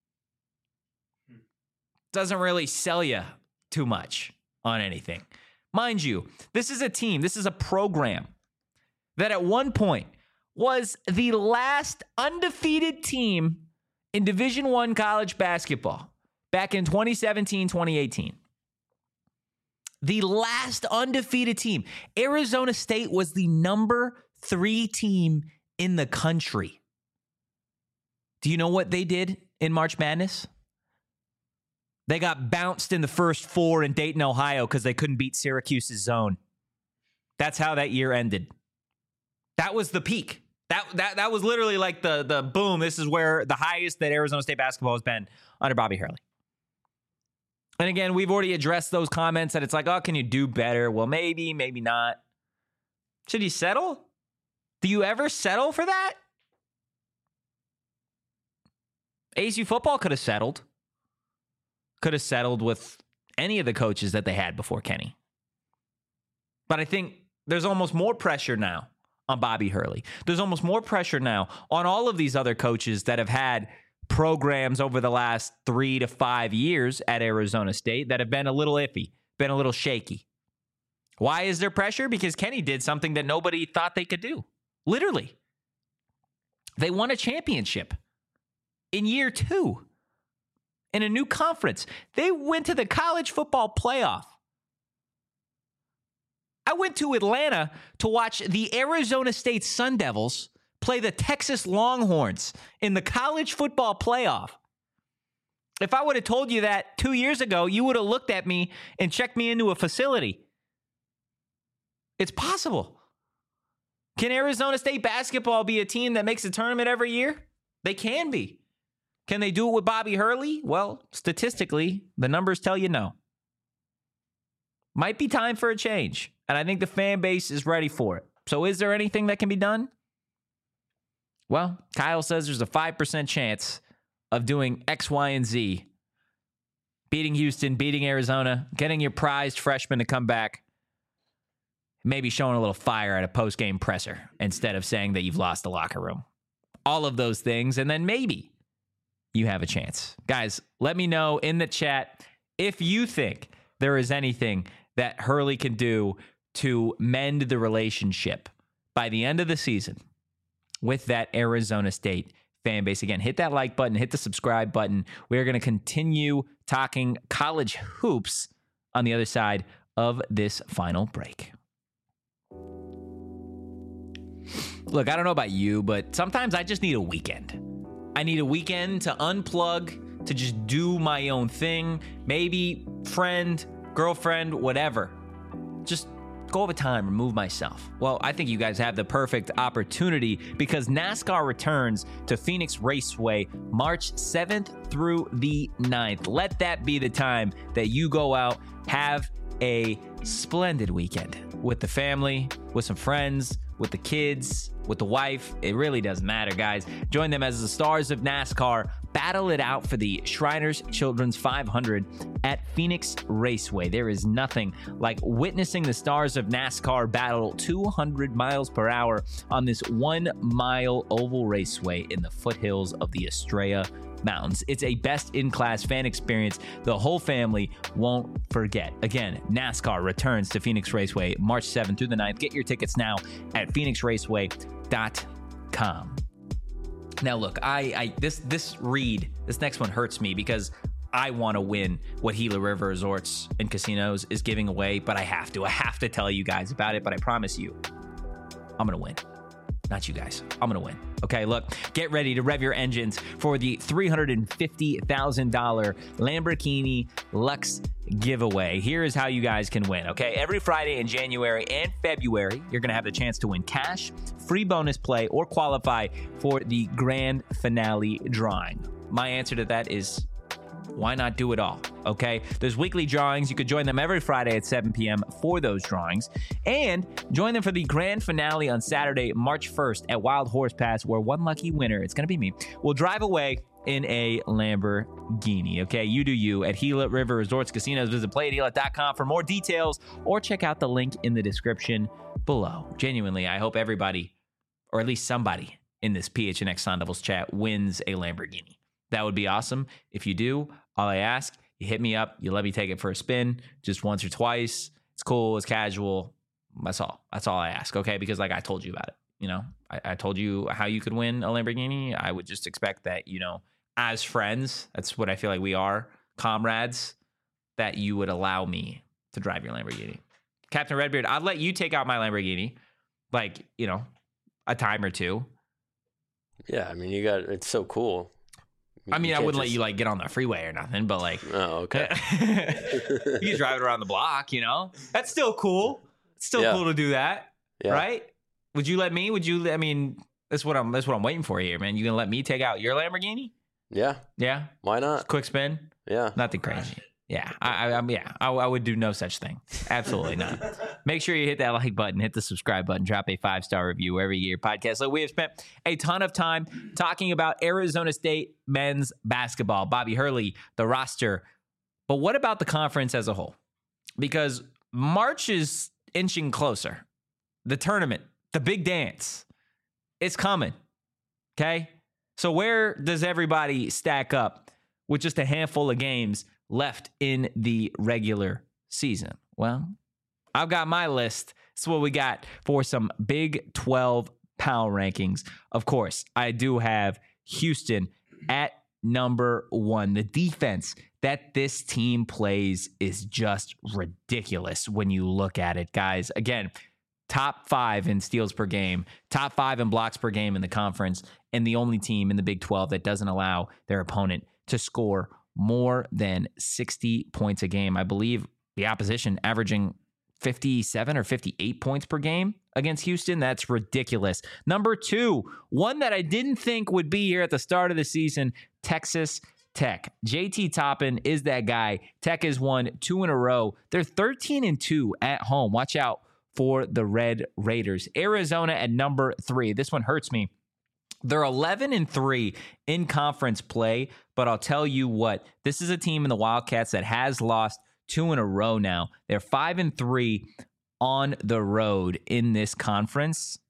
Doesn't really sell you too much on anything. Mind you, this is a team, this is a program that at one point was the last undefeated team in Division I college basketball back in 2017, 2018. The last undefeated team. Arizona State was the number 3 team in the country. Do you know what they did in March Madness? They got bounced in the first 4 in Dayton, Ohio, because they couldn't beat Syracuse's zone. That's how that year ended. That was the peak. That was literally like the boom. This is where the highest that Arizona State basketball has been under Bobby Hurley. And again, we've already addressed those comments that it's like, oh, can you do better? Well, maybe, maybe not. Should you settle? Do you ever settle for that? ASU football could have settled. Could have settled with any of the coaches that they had before Kenny. But I think there's almost more pressure now on Bobby Hurley. There's almost more pressure now on all of these other coaches that have had programs over the last 3 to 5 years at Arizona State that have been a little iffy, been a little shaky. Why is there pressure? Because Kenny did something that nobody thought they could do. Literally. They won a championship in year 2. In a new conference. They went to the college football playoff. I went to Atlanta to watch the Arizona State Sun Devils play the Texas Longhorns in the college football playoff. If I would have told you that 2 years ago, you would have looked at me and checked me into a facility. It's possible. Can Arizona State basketball be a team that makes a tournament every year? They can be. Can they do it with Bobby Hurley? Well, statistically, the numbers tell you no. Might be time for a change, and I think the fan base is ready for it. So is there anything that can be done? Well, Kyle says there's a 5% chance of doing X, Y, and Z. Beating Houston, beating Arizona, getting your prized freshman to come back, maybe showing a little fire at a post-game presser instead of saying that you've lost the locker room. All of those things, and then maybe you have a chance. Guys, let me know in the chat if you think there is anything that Hurley can do to mend the relationship by the end of the season with that Arizona State fan base. Again, hit that like button, hit the subscribe button. We're going to continue talking college hoops on the other side of this final break. Look, I don't know about you, but sometimes I just need a weekend. I need a weekend to unplug, to just do my own thing. Maybe friend, girlfriend, whatever. Just go over time, remove myself. Well, I think you guys have the perfect opportunity because NASCAR returns to Phoenix Raceway March 7th through the 9th. Let that be the time that you go out, have a splendid weekend with the family, with some friends, with the kids, with the wife. It really doesn't matter, guys. Join them as the stars of NASCAR battle it out for the Shriners Children's 500 at Phoenix Raceway. There is nothing like witnessing the stars of NASCAR battle 200 miles per hour on this 1 mile oval raceway in the foothills of the Estrella Mountains. It's a best-in-class fan experience the whole family won't forget. Again, NASCAR returns to Phoenix Raceway March 7th through the 9th. Get your tickets now at phoenixraceway.com. Now, look, this next one hurts me because I want to win what Gila River Resorts and Casinos is giving away, but I have to tell you guys about it, but I promise you, I'm going to win. Not you guys. I'm going to win. Okay, look, get ready to rev your engines for the $350,000 Lamborghini Lux giveaway. Here is how you guys can win, okay? Every Friday in January and February, you're going to have the chance to win cash, free bonus play, or qualify for the grand finale drawing. My answer to that is, why not do it all, okay? There's weekly drawings. You could join them every Friday at 7 p.m. for those drawings. And join them for the grand finale on Saturday, March 1st at Wild Horse Pass, where one lucky winner, it's going to be me, will drive away in a Lamborghini. Okay, you do you at Gila River Resorts Casinos. Visit playatgila.com for more details or check out the link in the description below. Genuinely, I hope everybody, or at least somebody in this PHNX Sun Devils chat, wins a Lamborghini. That would be awesome. If you do, all I ask, you hit me up, you let me take it for a spin just once or twice. It's cool, it's casual. That's all I ask, okay? Because like I told you about it, you know, I told you how you could win a Lamborghini. I would just expect that, you know, as friends, that's what I feel like we are, comrades, that you would allow me to drive your Lamborghini. Captain Redbeard, I'd let you take out my Lamborghini, like, you know, a time or two. Yeah, I mean, it's so cool. I mean, I wouldn't let you like get on the freeway or nothing, but like, oh, okay. You can drive it around the block, you know? That's still cool. It's still cool to do that, right? Would you let me? I mean, that's what I'm waiting for here, man. You gonna let me take out your Lamborghini? Yeah. Yeah. Why not? Quick spin? Yeah. Nothing crazy. Yeah. I would do no such thing. Absolutely not. Make sure you hit that like button, hit the subscribe button, drop a 5-star review wherever you get your podcast. So we have spent a ton of time talking about Arizona State men's basketball, Bobby Hurley, the roster. But what about the conference as a whole? Because March is inching closer. The tournament, the big dance, it's coming. Okay? So where does everybody stack up with just a handful of games left in the regular season? Well, I've got my list. That's what we got for some Big 12 power rankings. Of course, I do have Houston at number 1. The defense that this team plays is just ridiculous when you look at it, guys. Again, top 5 in steals per game, top 5 in blocks per game in the conference, and the only team in the Big 12 that doesn't allow their opponent to score more than 60 points a game. I believe the opposition averaging 57 or 58 points per game against Houston. That's ridiculous. Number 2, one that I didn't think would be here at the start of the season, Texas Tech. JT Toppin is that guy. Tech has won 2 in a row. They're 13-2 at home. Watch out for the Red Raiders. Arizona at number 3. This one hurts me. They're 11-3 in conference play, but I'll tell you what, this is a team in the Wildcats that has lost 2 in a row now. They're 5-3 on the road in this conference.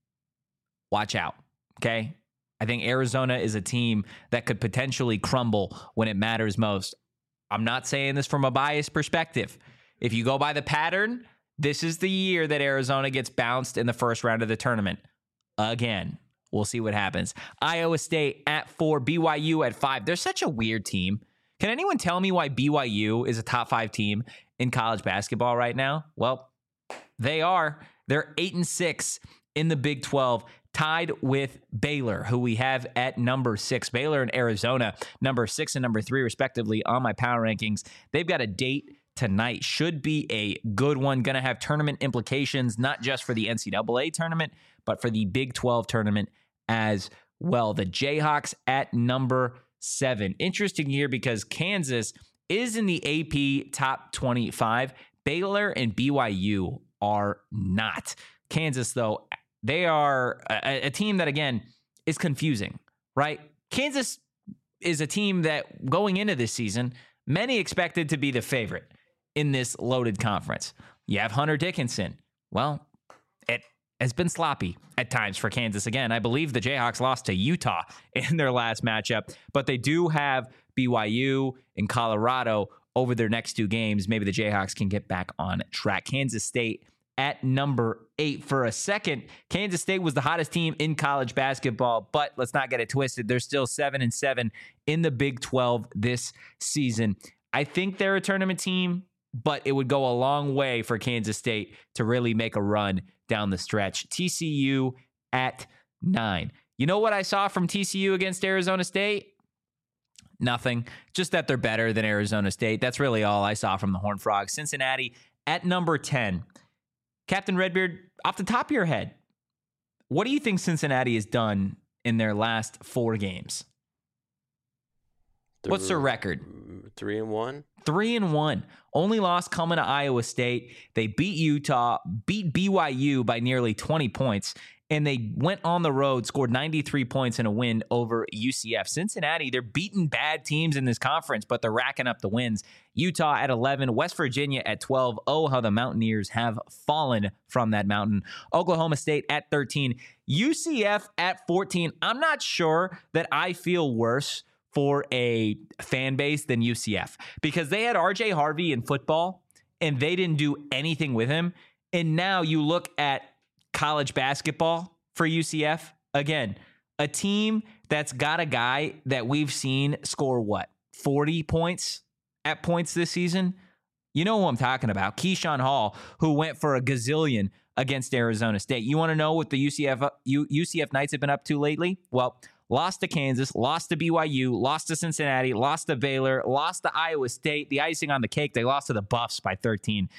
Watch out, okay? I think Arizona is a team that could potentially crumble when it matters most. I'm not saying this from a biased perspective. If you go by the pattern, this is the year that Arizona gets bounced in the first round of the tournament. Again. We'll see what happens. Iowa State at 4, BYU at 5. They're such a weird team. Can anyone tell me why BYU is a top 5 team in college basketball right now? Well, they are. They're 8-6 in the Big 12, tied with Baylor, who we have at number 6. Baylor and Arizona, number 6 and number 3, respectively, on my power rankings. They've got a date tonight. Should be a good one. Going to have tournament implications, not just for the NCAA tournament, but for the Big 12 tournament as well. The Jayhawks at number 7. Interesting here because Kansas is in the AP top 25. Baylor and BYU are not. Kansas, though, they are a team that, again, is confusing, right? Kansas is a team that, going into this season, many expected to be the favorite in this loaded conference. You have Hunter Dickinson. Well, it has been sloppy at times for Kansas. Again, I believe the Jayhawks lost to Utah in their last matchup, but they do have BYU and Colorado over their next 2 games. Maybe the Jayhawks can get back on track. Kansas State at number 8. For a second, Kansas State was the hottest team in college basketball, but let's not get it twisted. They're still 7-7 in the Big 12 this season. I think they're a tournament team, but it would go a long way for Kansas State to really make a run down the stretch. TCU at 9. You know what I saw from TCU against Arizona State? Nothing. Just that they're better than Arizona State. That's really all I saw from the Horned Frogs. Cincinnati at number 10. Captain Redbeard, off the top of your head, what do you think Cincinnati has done in their last 4 games? What's their record? 3-1. 3-1. Only loss coming to Iowa State. They beat Utah, beat BYU by nearly 20 points and they went on the road, scored 93 points in a win over UCF. Cincinnati, they're beating bad teams in this conference, but they're racking up the wins. Utah at 11, West Virginia at 12. Oh, how the Mountaineers have fallen from that mountain. Oklahoma State at 13. UCF at 14. I'm not sure that I feel worse for a fan base than UCF because they had RJ Harvey in football and they didn't do anything with him. And now you look at college basketball for UCF. Again, a team that's got a guy that we've seen score 40 points at points this season? You know who I'm talking about. Keyshawn Hall, who went for a gazillion against Arizona State. You want to know what the UCF Knights have been up to lately? Well, lost to Kansas, lost to BYU, lost to Cincinnati, lost to Baylor, lost to Iowa State. The icing on the cake, they lost to the Buffs by 13.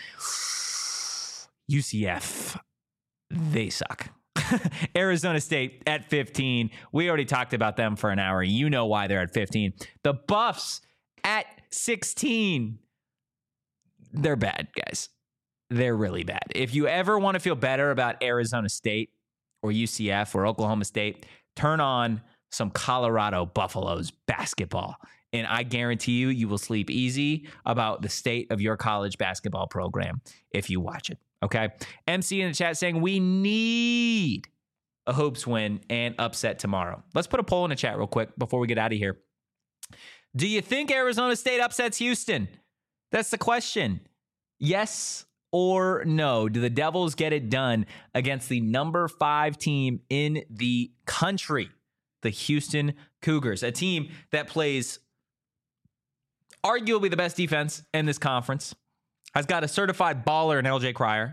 UCF, they suck. Arizona State at 15. We already talked about them for an hour. You know why they're at 15. The Buffs at 16. They're bad, guys. They're really bad. If you ever want to feel better about Arizona State or UCF or Oklahoma State, turn on some Colorado Buffaloes basketball. And I guarantee you, you will sleep easy about the state of your college basketball program if you watch it. Okay. MC in the chat saying we need a hoops win and upset tomorrow. Let's put a poll in the chat real quick before we get out of here. Do you think Arizona State upsets Houston? That's the question. Yes or no? Do the Devils get it done against the number 5 team in the country, the Houston Cougars, a team that plays arguably the best defense in this conference, has got a certified baller in LJ Cryer,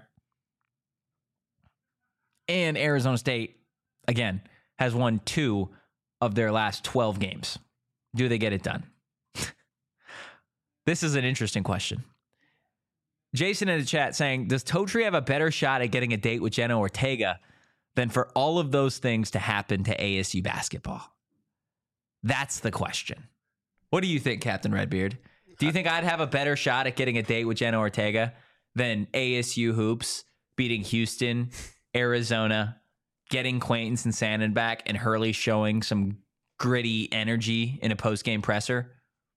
and Arizona State, again, has won 2 of their last 12 games. Do they get it done? This is an interesting question. Jason in the chat saying, does Totri have a better shot at getting a date with Jenna Ortega than for all of those things to happen to ASU basketball? That's the question. What do you think, Captain Redbeard? Do you think I'd have a better shot at getting a date with Jenna Ortega than ASU hoops beating Houston, Arizona, getting Quaintance and Sandin back, and Hurley showing some gritty energy in a post-game presser?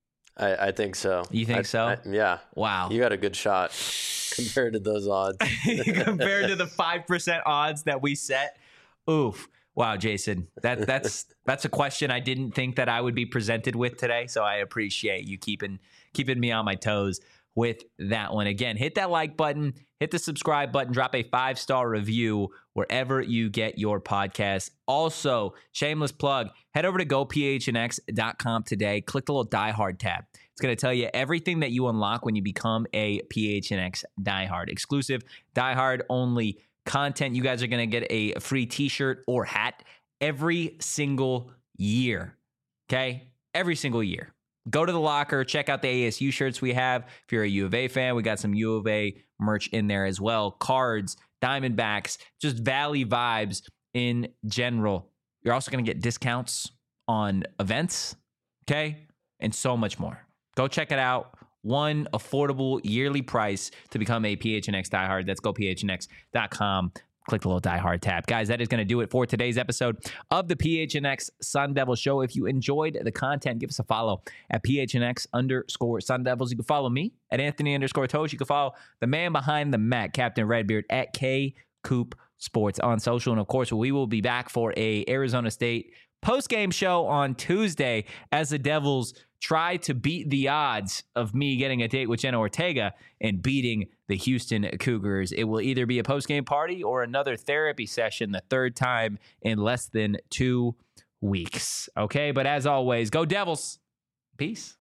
I think so. You think so? Yeah. Wow. You got a good shot compared to those odds. Compared to the 5% odds that we set. Oof. Wow, Jason. That's a question I didn't think that I would be presented with today. So I appreciate you keeping me on my toes with that one. Again, hit that like button, hit the subscribe button, drop a 5-star review wherever you get your podcast. Also, shameless plug, head over to gophnx.com today. Click the little Die Hard tab. It's going to tell you everything that you unlock when you become a PHNX Die Hard. Exclusive Die Hard only content. You guys are going to get a free t-shirt or hat every single year. Okay? Every single year. Go to the locker, check out the ASU shirts we have. If you're a U of A fan, we got some U of A merch in there as well. Cards, Diamondbacks, just Valley vibes in general. You're also going to get discounts on events, okay? And so much more. Go check it out. One affordable yearly price to become a PHNX diehard. That's gophnx.com. Click the little Die Hard tab. Guys, that is going to do it for today's episode of the PHNX Sun Devil Show. If you enjoyed the content, give us a follow at PHNX_Sun Devils. You can follow me at Anthony_Tosh. You can follow the man behind the mat, Captain Redbeard, at KCoop Sports on social. And of course, we will be back for a Arizona State post-game show on Tuesday as the Devils try to beat the odds of me getting a date with Jenna Ortega and beating the Houston Cougars. It will either be a post-game party or another therapy session, the third time in less than 2 weeks. Okay, but as always, go Devils. Peace.